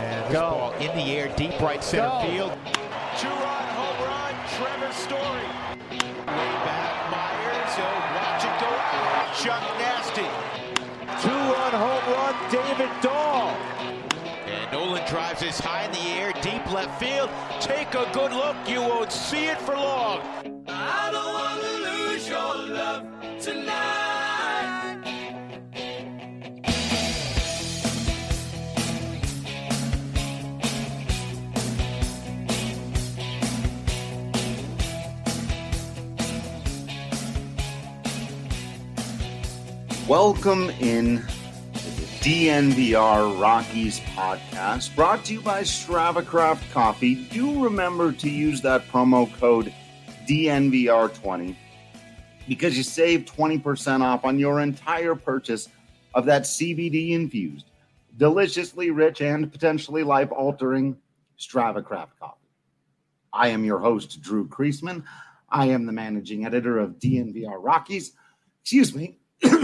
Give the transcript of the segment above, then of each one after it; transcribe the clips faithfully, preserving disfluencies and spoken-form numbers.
And this Go. ball in the air, deep right center Go. field. Two-run home run, Trevor Story. Way back, Myers. He'll watch it go out. Chuck Nasty. Two-run home run, David Dahl. And Nolan drives this high in the air, deep left field. Take a good look. You won't see it for long. I don't want to lose your love tonight. Welcome in to the D N V R Rockies podcast, brought to you by StravaCraft Coffee. Do remember to use that promo code D N V R twenty because you save twenty percent off on your entire purchase of that C B D-infused, deliciously rich, and potentially life-altering StravaCraft Coffee. I am your host, Drew Creasman. I am the managing editor of D N V R Rockies. Excuse me.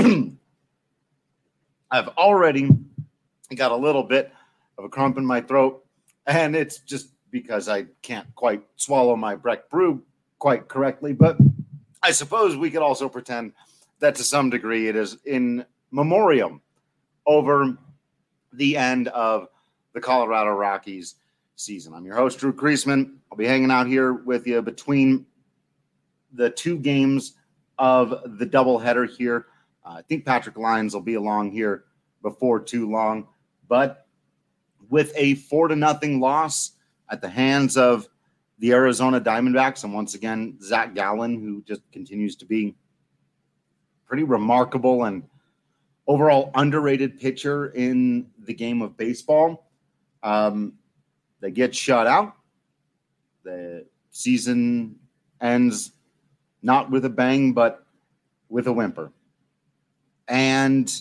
I've already got a little bit of a crump in my throat, and it's just because I can't quite swallow my Breck brew quite correctly. But I suppose we could also pretend that to some degree it is in memoriam over the end of the Colorado Rockies season. I'm your host, Drew Creasman. I'll be hanging out here with you between the two games of the doubleheader here. Uh, I think Patrick Lyons will be along here before too long, but with a four to nothing loss at the hands of the Arizona Diamondbacks, and once again Zach Gallen, who just continues to be pretty remarkable and overall underrated pitcher in the game of baseball. Um, they get shut out. The season ends not with a bang, but with a whimper. And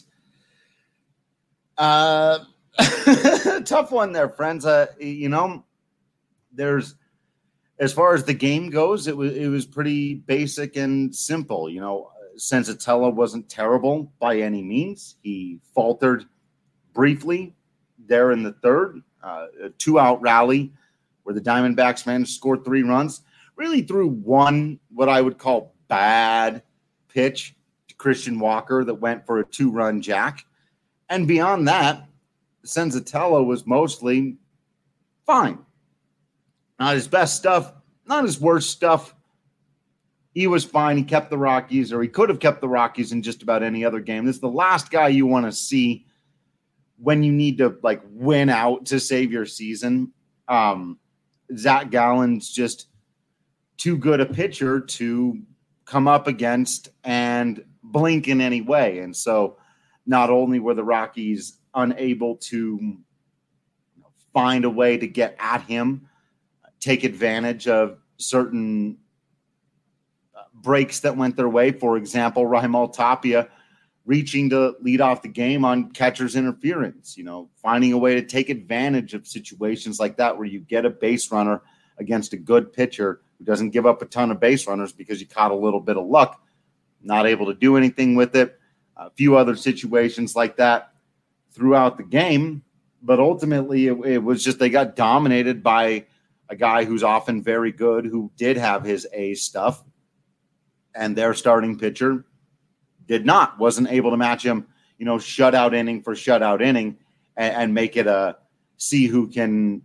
uh, tough one there, friends. Uh, you know, there's as far as the game goes, it was it was pretty basic and simple. You know, Senzatella wasn't terrible by any means. He faltered briefly there in the third, uh, a two-out rally where the Diamondbacks managed to score three runs. Really threw one what I would call bad pitch. Christian Walker that went for a two-run jack. And beyond that, Senzatella was mostly fine. Not his best stuff, not his worst stuff. He was fine. He kept the Rockies, or he could have kept the Rockies in just about any other game. This is the last guy you want to see when you need to, like, win out to save your season. Um, Zach Gallen's just too good a pitcher to come up against and blink in any way. And so not only were the Rockies unable to you know, find a way to get at him, take advantage of certain uh, breaks that went their way. For example, Raimel Tapia reaching to lead off the game on catcher's interference, you know, finding a way to take advantage of situations like that where you get a base runner against a good pitcher who doesn't give up a ton of base runners because you caught a little bit of luck. Not able to do anything with it. A few other situations like that throughout the game. But ultimately, it, it was just they got dominated by a guy who's often very good, who did have his A stuff. And their starting pitcher did not. Wasn't able to match him, you know, shutout inning for shutout inning and, and make it a see who can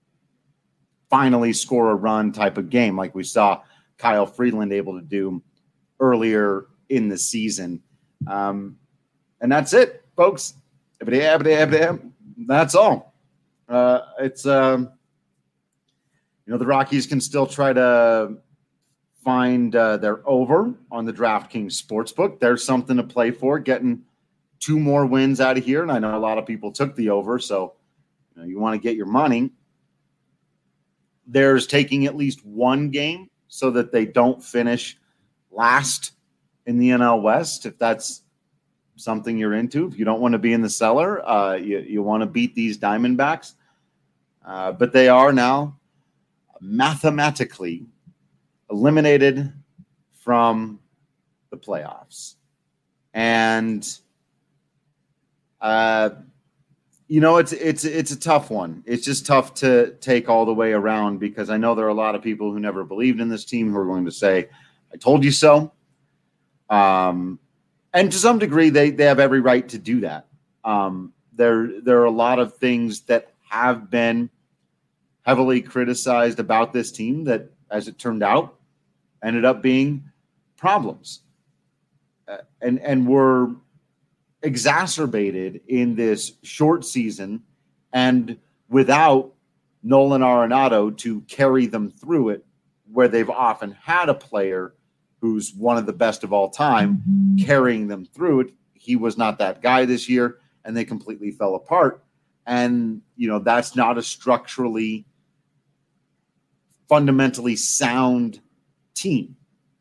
finally score a run type of game like we saw Kyle Freeland able to do earlier in the season. Um, and that's it, folks. That's all. Uh, it's, um, you know, the Rockies can still try to find uh, their over on the DraftKings Sportsbook. There's something to play for, getting two more wins out of here. And I know a lot of people took the over, so you know, you want to get your money. There's taking at least one game so that they don't finish last in the N L West, if that's something you're into. If you don't want to be in the cellar, uh, you, you want to beat these Diamondbacks. Uh, but they are now mathematically eliminated from the playoffs. And, uh, You know, it's it's it's a tough one. It's just tough to take all the way around because I know there are a lot of people who never believed in this team who are going to say, I told you so. Um, and to some degree, they, they have every right to do that. Um, there, there are a lot of things that have been heavily criticized about this team that, as it turned out, ended up being problems. Uh, and, and were exacerbated in this short season and without Nolan Arenado to carry them through it, where they've often had a player who's one of the best of all time mm-hmm. carrying them through it. He was not that guy this year, and they completely fell apart. And, you know, that's not a structurally, fundamentally sound team.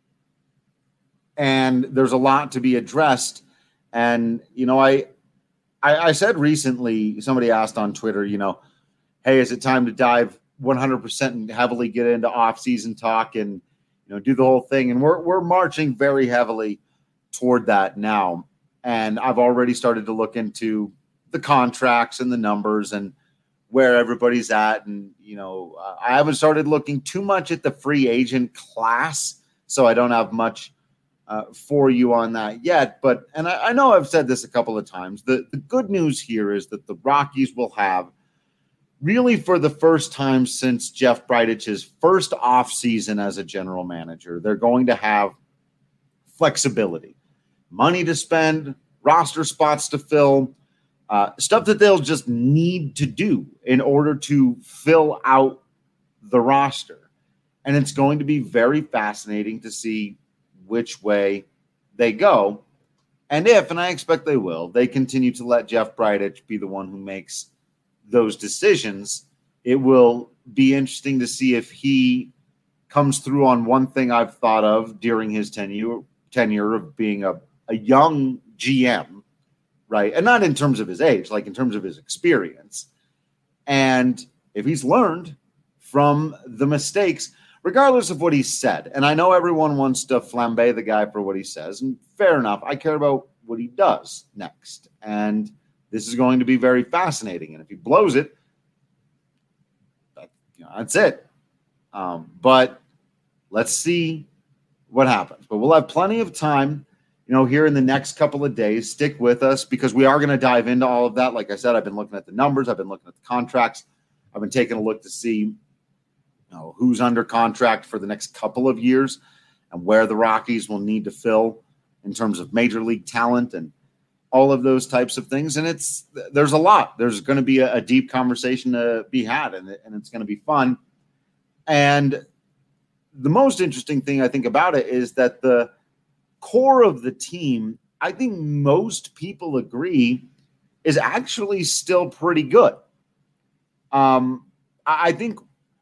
And there's a lot to be addressed. And, you know, I, I, I said recently, somebody asked on Twitter, you know, hey, is it time to dive one hundred percent and heavily get into off-season talk and, you know, do the whole thing? And we're we're marching very heavily toward that now. And I've already started to look into the contracts and the numbers and where everybody's at. And, you know, uh, I haven't started looking too much at the free agent class, so I don't have much Uh, for you on that yet. But, and I, I know I've said this a couple of times, the, the good news here is that the Rockies will have, really for the first time since Jeff Bridic's first offseason as a general manager, they're going to have flexibility, money to spend, roster spots to fill, uh, stuff that they'll just need to do in order to fill out the roster. And it's going to be very fascinating to see which way they go. And if, and I expect they will, they continue to let Jeff Bridich be the one who makes those decisions, it will be interesting to see if he comes through on one thing I've thought of during his tenure, tenure of being a, a young G M, right? And not in terms of his age, like in terms of his experience. And if he's learned from the mistakes, regardless of what he said. And I know everyone wants to flambe the guy for what he says, and fair enough. I care about what he does next. And this is going to be very fascinating. And if he blows it, that, you know, that's it. Um, but let's see what happens. But we'll have plenty of time, you know, here in the next couple of days. Stick with us because we are going to dive into all of that. Like I said, I've been looking at the numbers. I've been looking at the contracts. I've been taking a look to see You know, who's under contract for the next couple of years and where the Rockies will need to fill in terms of major league talent and all of those types of things. And it's there's a lot. There's going to be a, a deep conversation to be had, and, and it's going to be fun. And the most interesting thing I think about it is that the core of the team, I think most people agree, is actually still pretty good. Um, I think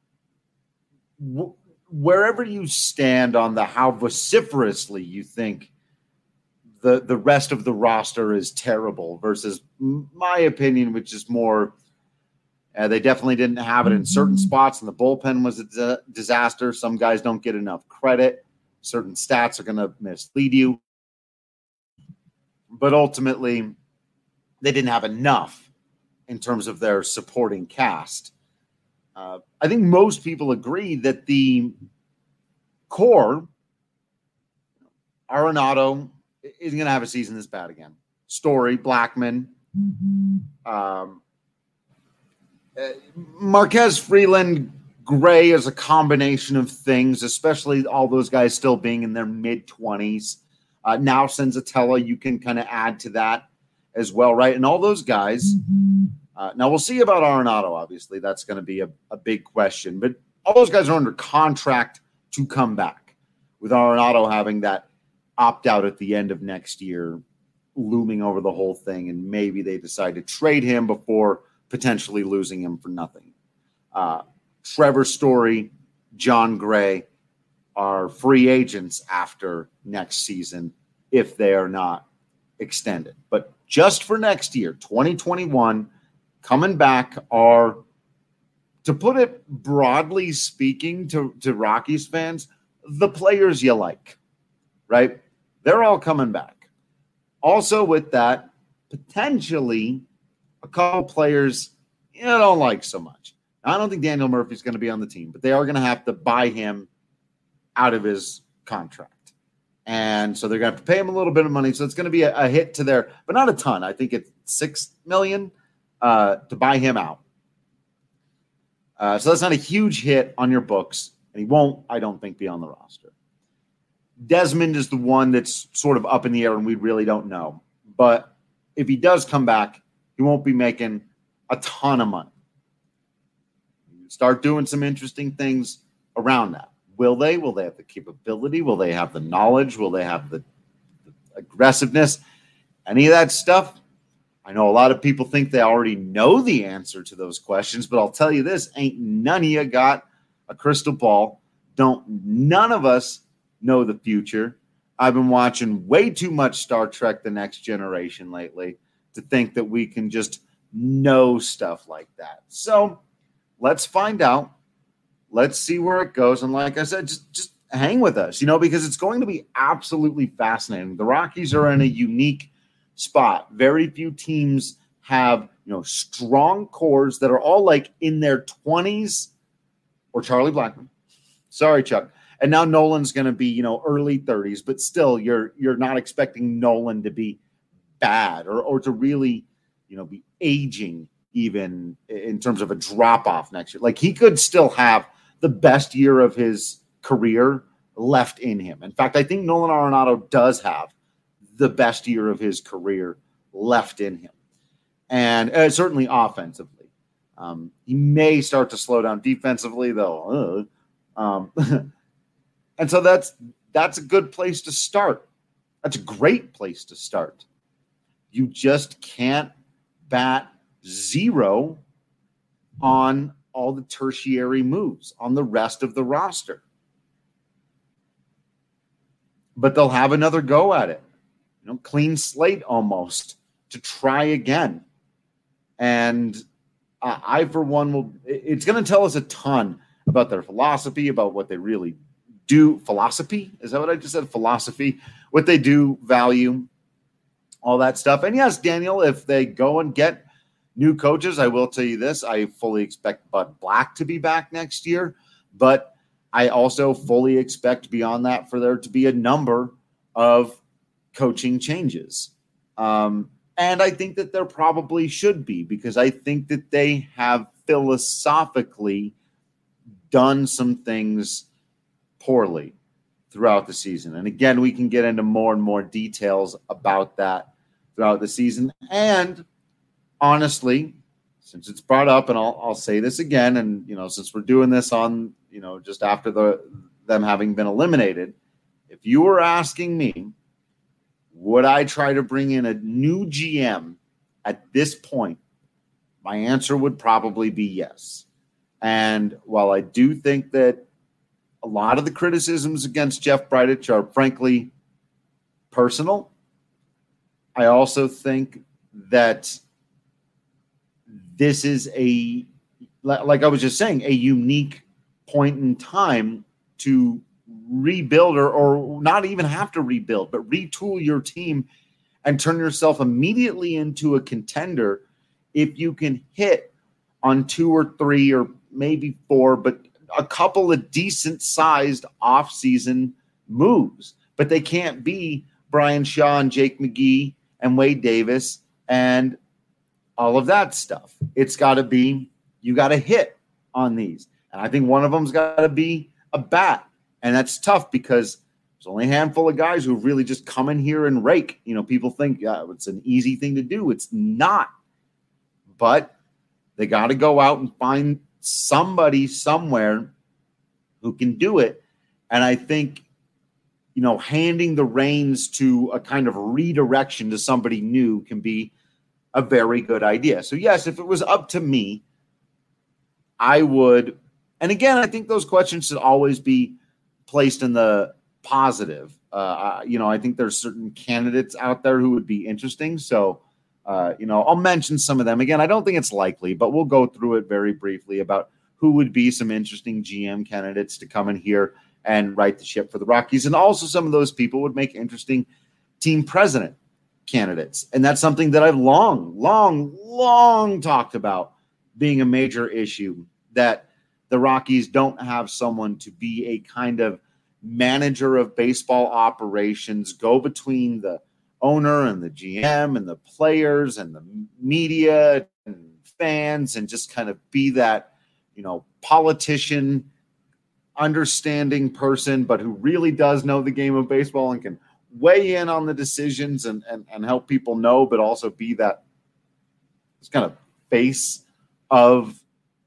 wherever you stand on the how vociferously you think the the rest of the roster is terrible versus my opinion, which is more uh, they definitely didn't have it in certain spots, and the bullpen was a di- disaster. Some guys don't get enough credit. Certain stats are going to mislead you. But ultimately, they didn't have enough in terms of their supporting cast. Uh, I think most people agree that the core, Arenado, isn't going to have a season this bad again. Story, Blackman, mm-hmm. um, uh, Marquez, Freeland, Gray is a combination of things, especially all those guys still being in their mid-twenties. Uh, now Senzatella, you can kind of add to that as well, right? And all those guys mm-hmm. – Uh, now, we'll see about Arenado, obviously. That's going to be a, a big question. But all those guys are under contract to come back, with Arenado having that opt-out at the end of next year looming over the whole thing, and maybe they decide to trade him before potentially losing him for nothing. Uh, Trevor Story, John Gray are free agents after next season if they are not extended. But just for next year, twenty twenty-one, coming back are, to put it broadly speaking to, to Rockies fans, the players you like, right? They're all coming back. Also with that, potentially a a couple players you know, don't like so much. Now, I don't think Daniel Murphy's going to be on the team, but they are going to have to buy him out of his contract. And so they're going to have to pay him a little bit of money. So it's going to be a, a hit to their, but not a ton. I think it's six million dollars uh, to buy him out. Uh, so that's not a huge hit on your books. And he won't, I don't think, be on the roster. Desmond is the one that's sort of up in the air and we really don't know. But if he does come back, he won't be making a ton of money. Start doing some interesting things around that. Will they? Will they have the capability? Will they have the knowledge? Will they have the, the aggressiveness? Any of that stuff? I know a lot of people think they already know the answer to those questions, but I'll tell you this, ain't none of you got a crystal ball. Don't none of us know the future. I've been watching way too much Star Trek The Next Generation lately to think that we can just know stuff like that. So let's find out. Let's see where it goes. And like I said, just, just hang with us, you know, because it's going to be absolutely fascinating. The Rockies are in a unique spot. Very few teams have, you know, strong cores that are all like in their twenties or Charlie Blackmon. Sorry, Chuck. And now Nolan's going to be, you know, early thirties, but still you're you're not expecting Nolan to be bad or or to really, you know, be aging even in terms of a drop off next year. Like he could still have the best year of his career left in him. In fact, I think Nolan Arenado does have the best year of his career left in him. And uh, certainly offensively. Um, he may start to slow down defensively, though. Uh, um, and so that's that's a good place to start. That's a great place to start. You just can't bat zero on all the tertiary moves on the rest of the roster. But they'll have another go at it. You know, clean slate almost to try again. And uh, I, for one, will, it's going to tell us a ton about their philosophy, about what they really do. Philosophy? Is that what I just said? Philosophy. What they do value, all that stuff. And yes, Daniel, if they go and get new coaches, I will tell you this. I fully expect Bud Black to be back next year, but I also fully expect beyond that for there to be a number of coaching changes. Um, and I think that there probably should be, because I think that they have philosophically done some things poorly throughout the season. And again, we can get into more and more details about that throughout the season. And honestly, since it's brought up, and I'll, I'll say this again, and, you know, since we're doing this on, you know, just after the them having been eliminated, if you were asking me, would I try to bring in a new G M at this point, my answer would probably be yes. And while I do think that a lot of the criticisms against Jeff Bridich are frankly personal, I also think that this is a, like I was just saying, a unique point in time to rebuild or, or not even have to rebuild, but retool your team and turn yourself immediately into a contender if you can hit on two or three or maybe four, but a couple of decent sized off-season moves. But they can't be Brian Shaw and Jake McGee and Wade Davis and all of that stuff. It's got to be, you got to hit on these. And I think one of them's got to be a bat. And that's tough because there's only a handful of guys who really just come in here and rake. You know, people think yeah, it's an easy thing to do. It's not. But they got to go out and find somebody somewhere who can do it. And I think, you know, handing the reins to a kind of redirection to somebody new can be a very good idea. So, yes, if it was up to me, I would. And again, I think those questions should always be placed in the positive. Uh, you know, I think there's certain candidates out there who would be interesting. So, uh, you know, I'll mention some of them. Again, I don't think it's likely, but we'll go through it very briefly about who would be some interesting G M candidates to come in here and right the ship for the Rockies. And also some of those people would make interesting team president candidates. And that's something that I've long, long, long talked about being a major issue, that the Rockies don't have someone to be a kind of manager of baseball operations, go between the owner and the G M and the players and the media and fans, and just kind of be that, you know, politician, understanding person, but who really does know the game of baseball and can weigh in on the decisions and, and, and help people know, but also be that this kind of face of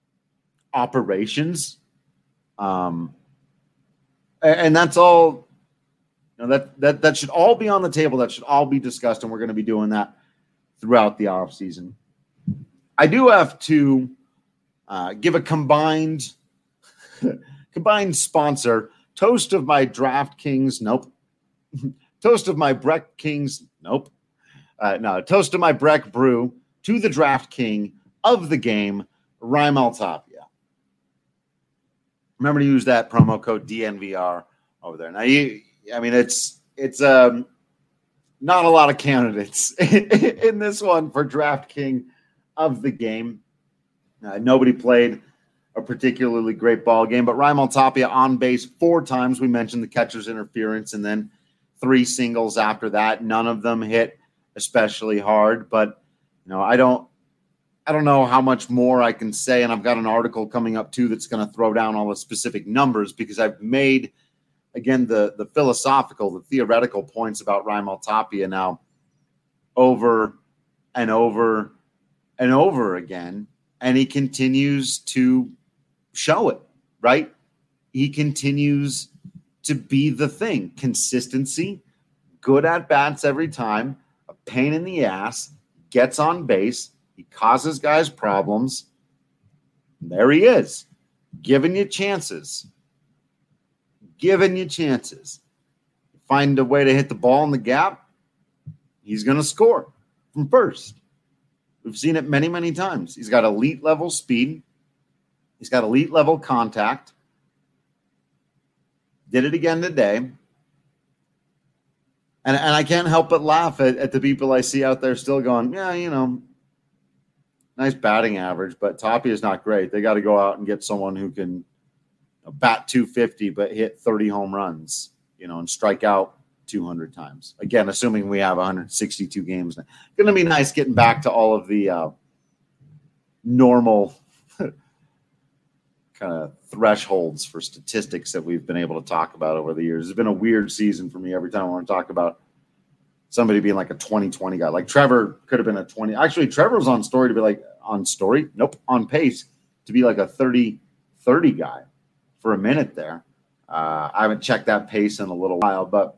operations. Um, and, and that's all, you know, that, that, that should all be on the table. That should all be discussed. And we're going to be doing that throughout the off season. I do have to uh, give a combined, combined sponsor toast of my DraftKings. Nope. Toast of my Breck Kings. Nope. Uh, no, toast of my Breck Brew to the Draft King of the game, Raimel Tapia. Remember to use that promo code D N V R over there. Now, you, I mean, it's it's um, not a lot of candidates in this one for Draft King of the game. Uh, nobody played a particularly great ball game, but Raimel Tapia on base four times. We mentioned the catcher's interference, and then three singles after that. None of them hit especially hard, but you know, I don't, I don't know how much more I can say. And I've got an article coming up too that's going to throw down all the specific numbers, because I've made, again, the the philosophical, the theoretical points about Raimel Tapia now over and over and over again, and he continues to show it, right? He continues to be the thing. Consistency, good at bats every time, a pain in the ass, gets on base, he causes guys problems. There he is, giving you chances. Giving you chances. Find a way to hit the ball in the gap, he's going to score from first. We've seen it many, many times. He's got elite level speed. He's got elite level contact. Did it again today. And, and I can't help but laugh at, at the people I see out there still going, yeah, you know, nice batting average, but Tapia is not great. They got to go out and get someone who can, you know, bat two fifty but hit thirty home runs, you know, and strike out two hundred times. Again, assuming we have one hundred sixty-two games. It's going to be nice getting back to all of the uh, normal kind of thresholds for statistics that we've been able to talk about over the years. It's been a weird season for me every time I want to talk about somebody being like a twenty twenty guy. Like Trevor could have been a twenty. Actually, Trevor was on story to be like on story. Nope. On pace to be like a thirty thirty guy for a minute there. Uh, I haven't checked that pace in a little while, but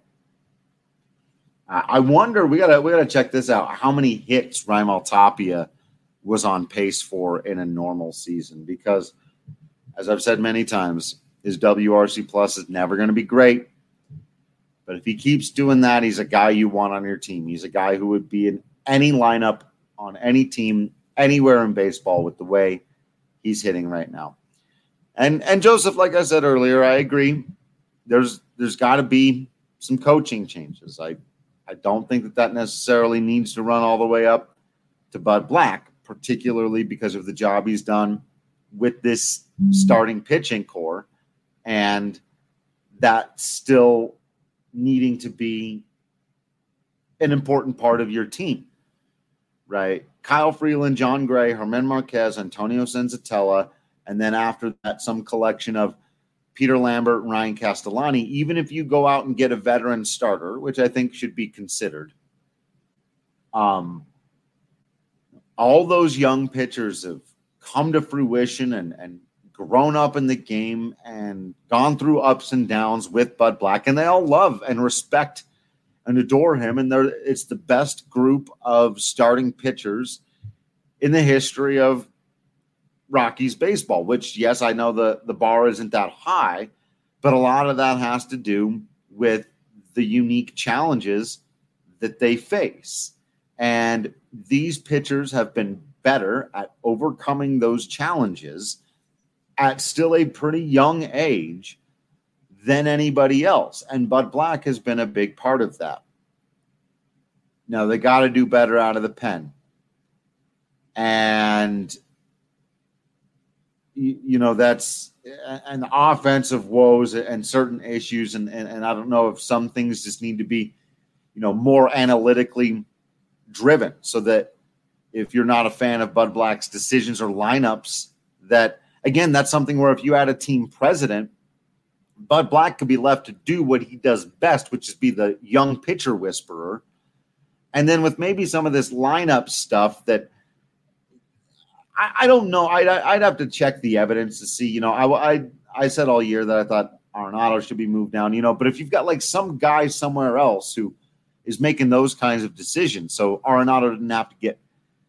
I wonder, we gotta we gotta check this out. How many hits Raimel Tapia was on pace for in a normal season? Because, as I've said many times, his W R C plus is never going to be great. But if he keeps doing that, he's a guy you want on your team. He's a guy who would be in any lineup on any team anywhere in baseball with the way he's hitting right now. And and Joseph, like I said earlier, I agree. There's there's got to be some coaching changes. I. I don't think that that necessarily needs to run all the way up to Bud Black, particularly because of the job he's done with this starting pitching core, and that still needing to be an important part of your team, right? Kyle Freeland, John Gray, Germán Marquez, Antonio Senzatella, and then after that, some collection of Peter Lambert and Ryan Castellani. Even if you go out and get a veteran starter, which I think should be considered, um, all those young pitchers have come to fruition and, and grown up in the game and gone through ups and downs with Bud Black, and they all love and respect and adore him. And they're, it's the best group of starting pitchers in the history of Rockies baseball, which, yes, I know the, the bar isn't that high, but a lot of that has to do with the unique challenges that they face. And these pitchers have been better at overcoming those challenges at still a pretty young age than anybody else. And Bud Black has been a big part of that. Now they got to do better out of the pen. And, you, you know, that's an offensive woes and certain issues. And, and, and I don't know if some things just need to be, you know, more analytically driven so that if you're not a fan of Bud Black's decisions or lineups, that, again, that's something where if you had a team president, Bud Black could be left to do what he does best, which is be the young pitcher whisperer. And then with maybe some of this lineup stuff that I, I don't know, I'd, I'd have to check the evidence to see, you know, I, I, I said all year that I thought Arenado should be moved down, you know, but if you've got like some guy somewhere else who is making those kinds of decisions, so Arenado didn't have to get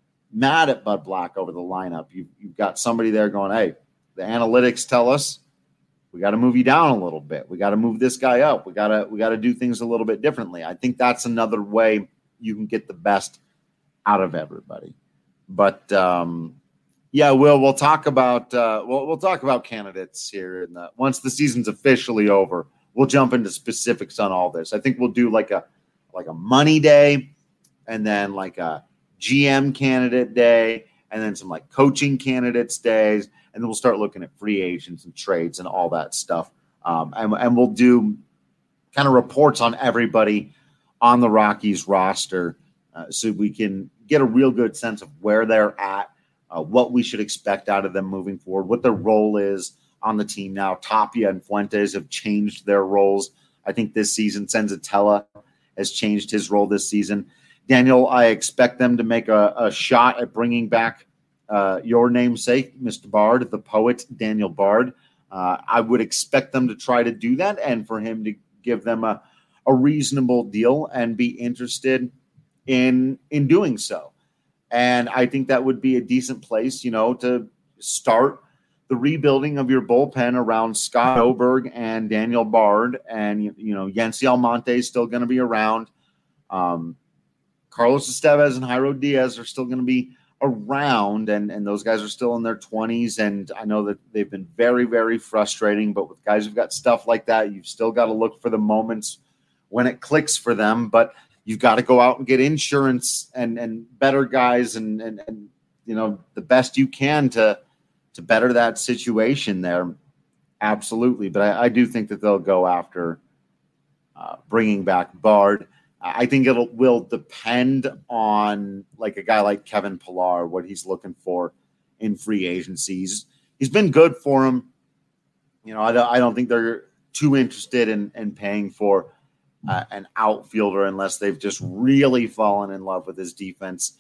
mad at Bud Black over the lineup. You, you've got somebody there going, hey, the analytics tell us we got to move you down a little bit. We got to move this guy up. We got to we got to do things a little bit differently. I think that's another way you can get the best out of everybody. But um, yeah, Will, we'll talk about uh, we'll we'll talk about candidates here, and once the season's officially over, we'll jump into specifics on all this. I think we'll do like a like a money day, and then like a G M candidate day, and then some like coaching candidates days. And then we'll start looking at free agents and trades and all that stuff. Um, and, and we'll do kind of reports on everybody on the Rockies roster uh, so we can get a real good sense of where they're at, uh, what we should expect out of them moving forward, what their role is on the team now. Tapia and Fuentes have changed their roles. I think this season, Senzatella has changed his role this season. Daniel, I expect them to make a, a shot at bringing back Uh, your namesake, Mister Bard, the poet, Daniel Bard. Uh, I would expect them to try to do that and for him to give them a, a reasonable deal and be interested in in doing so. And I think that would be a decent place, you know, to start the rebuilding of your bullpen around Scott Oberg and Daniel Bard. And, you know, Yency Almonte is still going to be around. Um, Carlos Estevez and Jairo Diaz are still going to be around, and, and those guys are still in their twenties, and I know that they've been very, very frustrating, but with guys who've got stuff like that, you've still got to look for the moments when it clicks for them, but you've got to go out and get insurance and, and better guys and, and, and, you know, the best you can to, to better that situation there. Absolutely. But I, I do think that they'll go after uh, bringing back Bard. I think it will depend on like a guy like Kevin Pillar, what he's looking for in free agency. He's, he's been good for him. You know, I don't, I don't think they're too interested in, in paying for uh, an outfielder unless they've just really fallen in love with his defense.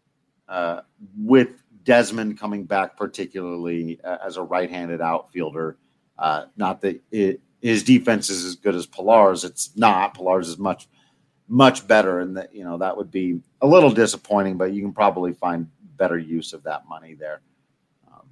Uh, with Desmond coming back, particularly uh, as a right-handed outfielder, uh, not that it, his defense is as good as Pillar's. It's not. Pillar's is much much better, and that, you know, that would be a little disappointing, but you can probably find better use of that money there. Um,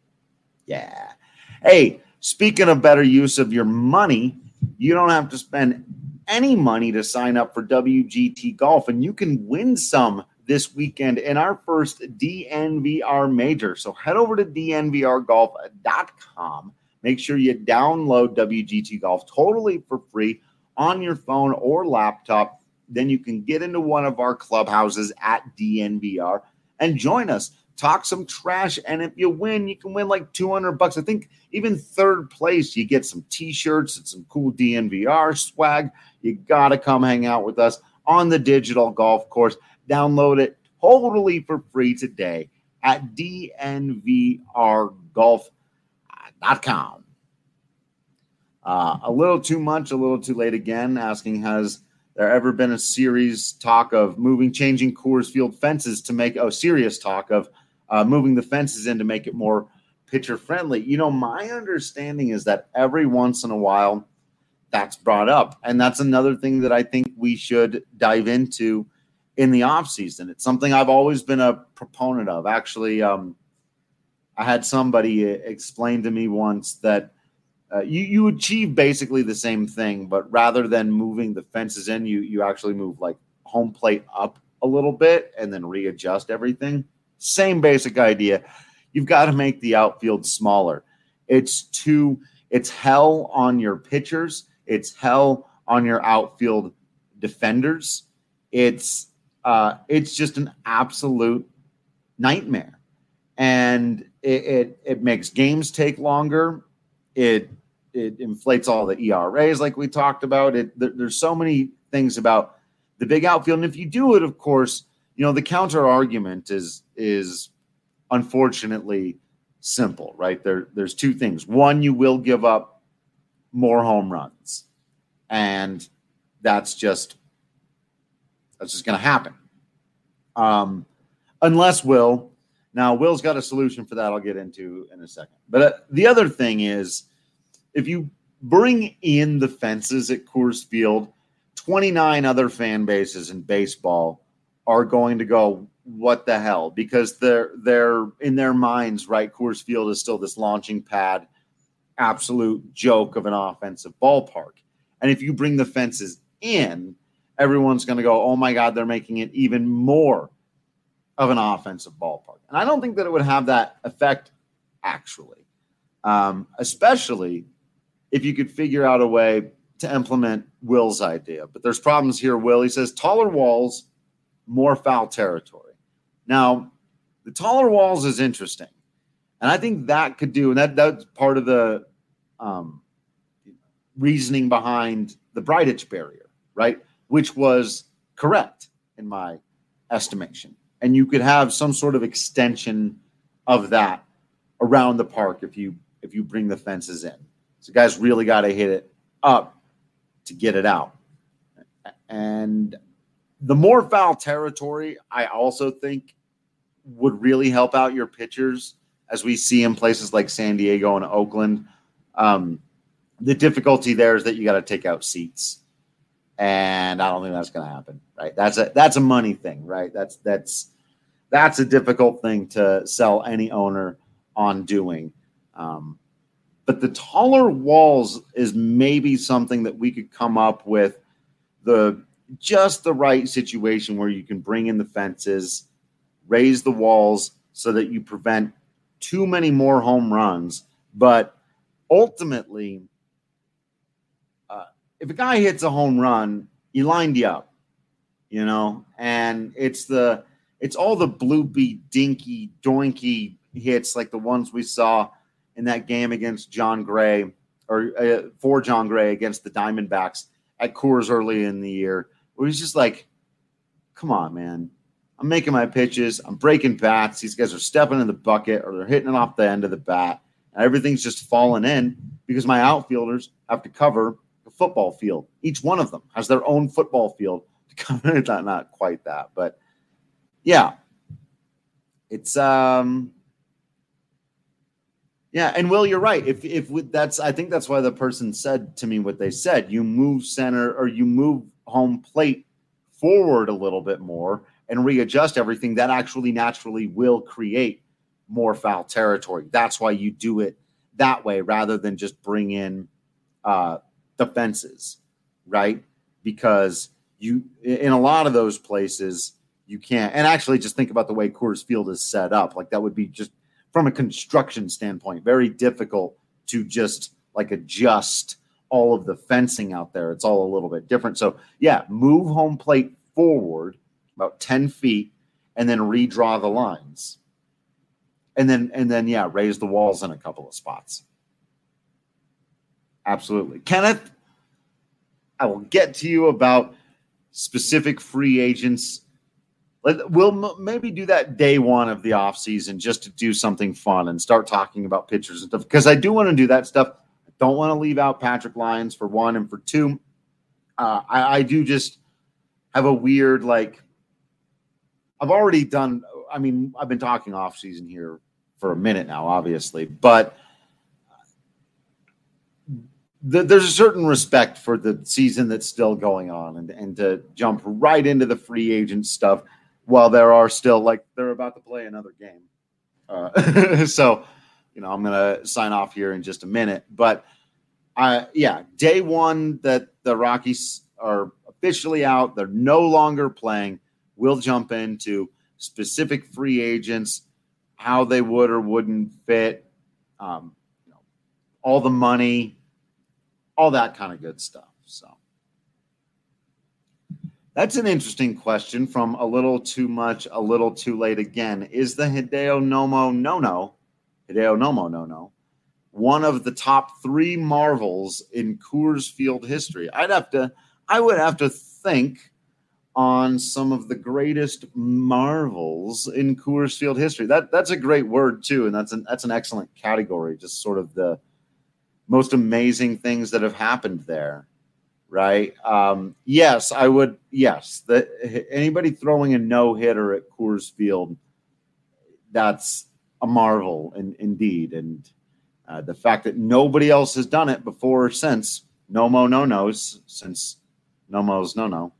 yeah. Hey, speaking of better use of your money, you don't have to spend any money to sign up for W G T Golf, and you can win some this weekend in our first D N V R major. So head over to D N V R golf dot com. Make sure you download W G T Golf totally for free on your phone or laptop. Then you can get into one of our clubhouses at D N V R and join us. Talk some trash, and if you win, you can win like two hundred bucks. I think even third place, you get some T-shirts and some cool D N V R swag. You got to come hang out with us on the digital golf course. Download it totally for free today at D N V R golf dot com. Uh, a little too much, a little too late again, asking, has there ever been a serious talk of moving, changing Coors Field fences to make, oh, serious talk of uh, moving the fences in to make it more pitcher friendly? You know, my understanding is that every once in a while that's brought up. And that's another thing that I think we should dive into in the off season. It's something I've always been a proponent of. Actually, um, I had somebody explain to me once that Uh, you, you achieve basically the same thing, but rather than moving the fences in, you you actually move like home plate up a little bit and then readjust everything. Same basic idea. You've got to make the outfield smaller. It's too, it's hell on your pitchers. It's hell on your outfield defenders. It's uh, it's just an absolute nightmare. And it, it, it makes games take longer. It, it inflates all the E R As like we talked about. It there, There's so many things about the big outfield. And if you do it, of course, you know, the counter argument is, is unfortunately simple, right? There, there's two things. One, you will give up more home runs, and that's just, that's just going to happen. Um, unless Will, now Will's got a solution for that I'll get into in a second. But uh, the other thing is, if you bring in the fences at Coors Field, twenty-nine other fan bases in baseball are going to go, what the hell? Because they're they're in their minds, right? Coors Field is still this launching pad, absolute joke of an offensive ballpark. And if you bring the fences in, everyone's going to go, oh my God, they're making it even more of an offensive ballpark. And I don't think that it would have that effect, actually, um, especially if you could figure out a way to implement Will's idea. But there's problems here, Will. He says taller walls, more foul territory. Now, the taller walls is interesting. And I think that could do, and that that's part of the um, reasoning behind the Bridich barrier, right? Which was correct in my estimation. And you could have some sort of extension of that around the park if you if you bring the fences in. So guys really got to hit it up to get it out. And the more foul territory, I also think, would really help out your pitchers, as we see in places like San Diego and Oakland. Um, the difficulty there is that you got to take out seats. And I don't think that's going to happen, right? That's a that's a money thing, right? That's that's that's a difficult thing to sell any owner on doing. Um, but the taller walls is maybe something that we could come up with the just the right situation where you can bring in the fences, raise the walls so that you prevent too many more home runs. But ultimately, uh, if a guy hits a home run, he lined you up, you know, and it's the it's all the bloopy, dinky, doinky hits like the ones we saw in that game against John Gray or uh, for John Gray against the Diamondbacks at Coors early in the year, where he's just like, come on, man. I'm making my pitches. I'm breaking bats. These guys are stepping in the bucket or they're hitting it off the end of the bat. And everything's just falling in because my outfielders have to cover the football field. Each one of them has their own football field to cover. not, not quite that, but yeah. It's, um, yeah. And Will, you're right. If, if we, that's, I think that's why the person said to me what they said. You move center or you move home plate forward a little bit more and readjust everything, that actually naturally will create more foul territory. That's why you do it that way rather than just bring in uh, the fences, right? Because you, in a lot of those places, you can't. And actually, just think about the way Coors Field is set up. Like that would be just from a construction standpoint, very difficult to just like adjust all of the fencing out there. It's all a little bit different. So yeah, move home plate forward about ten feet and then redraw the lines. And then, and then, yeah, raise the walls in a couple of spots. Absolutely. Kenneth, I will get to you about specific free agents. We'll maybe do that day one of the offseason just to do something fun and start talking about pitchers and stuff, because I do want to do that stuff. I don't want to leave out Patrick Lyons for one, and for two, uh, I, I do just have a weird, like, I've already done, I mean, I've been talking off season here for a minute now, obviously, but th- there's a certain respect for the season that's still going on, and, and to jump right into the free agent stuff while there are still, like, they're about to play another game. Uh, so, you know, I'm going to sign off here in just a minute, but uh, yeah, day one that the Rockies are officially out, they're no longer playing. We'll jump into specific free agents, how they would or wouldn't fit, um, you know, all the money, all that kind of good stuff. So That's an interesting question from A Little Too Much, A Little Too Late again. Is the Hideo Nomo no-no, Hideo Nomo no-no, one of the top three marvels in Coors Field history? I'd have to, I would have to think on some of the greatest marvels in Coors Field history. That that's a great word too, and that's an that's an excellent category. Just sort of the most amazing things that have happened there, right? Um, yes, I would. Yes, the, anybody throwing a no hitter at Coors Field, that's a marvel, in, indeed. And uh, the fact that nobody else has done it before or since Nomo no nos, since Nomo's no no.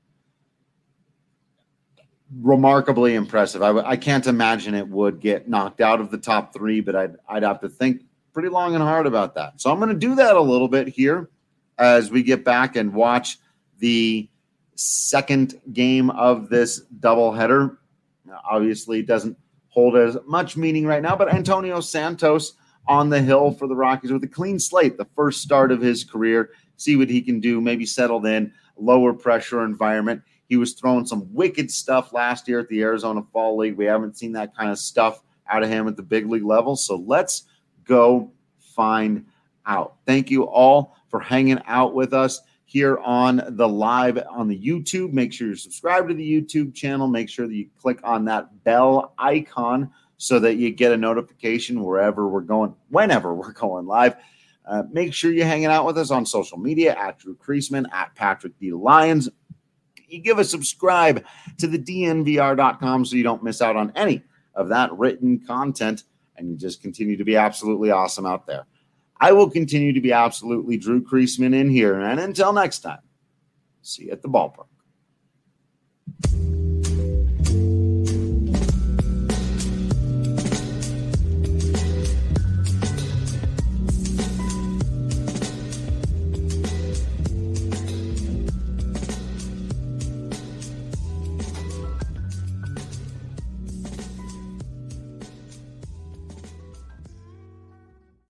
Remarkably impressive. I, w- I can't imagine it would get knocked out of the top three, but I'd, I'd have to think pretty long and hard about that. So I'm going to do that a little bit here as we get back and watch the second game of this doubleheader. Now, obviously, it doesn't hold as much meaning right now, but Antonio Santos on the hill for the Rockies with a clean slate, the first start of his career. See what he can do, maybe settled in, lower pressure environment. He was throwing some wicked stuff last year at the Arizona Fall League. We haven't seen that kind of stuff out of him at the big league level. So let's go find out. Thank you all for hanging out with us here on the live on the YouTube. Make sure you're subscribed to the YouTube channel. Make sure that you click on that bell icon so that you get a notification wherever we're going, whenever we're going live. Uh, make sure you're hanging out with us on social media at Drew Creasman, at Patrick D. Lyons. You give a subscribe to the D N V R dot com so you don't miss out on any of that written content, and you just continue to be absolutely awesome out there. I will continue to be absolutely Drew Creasman in here, and until next time, see you at the ballpark.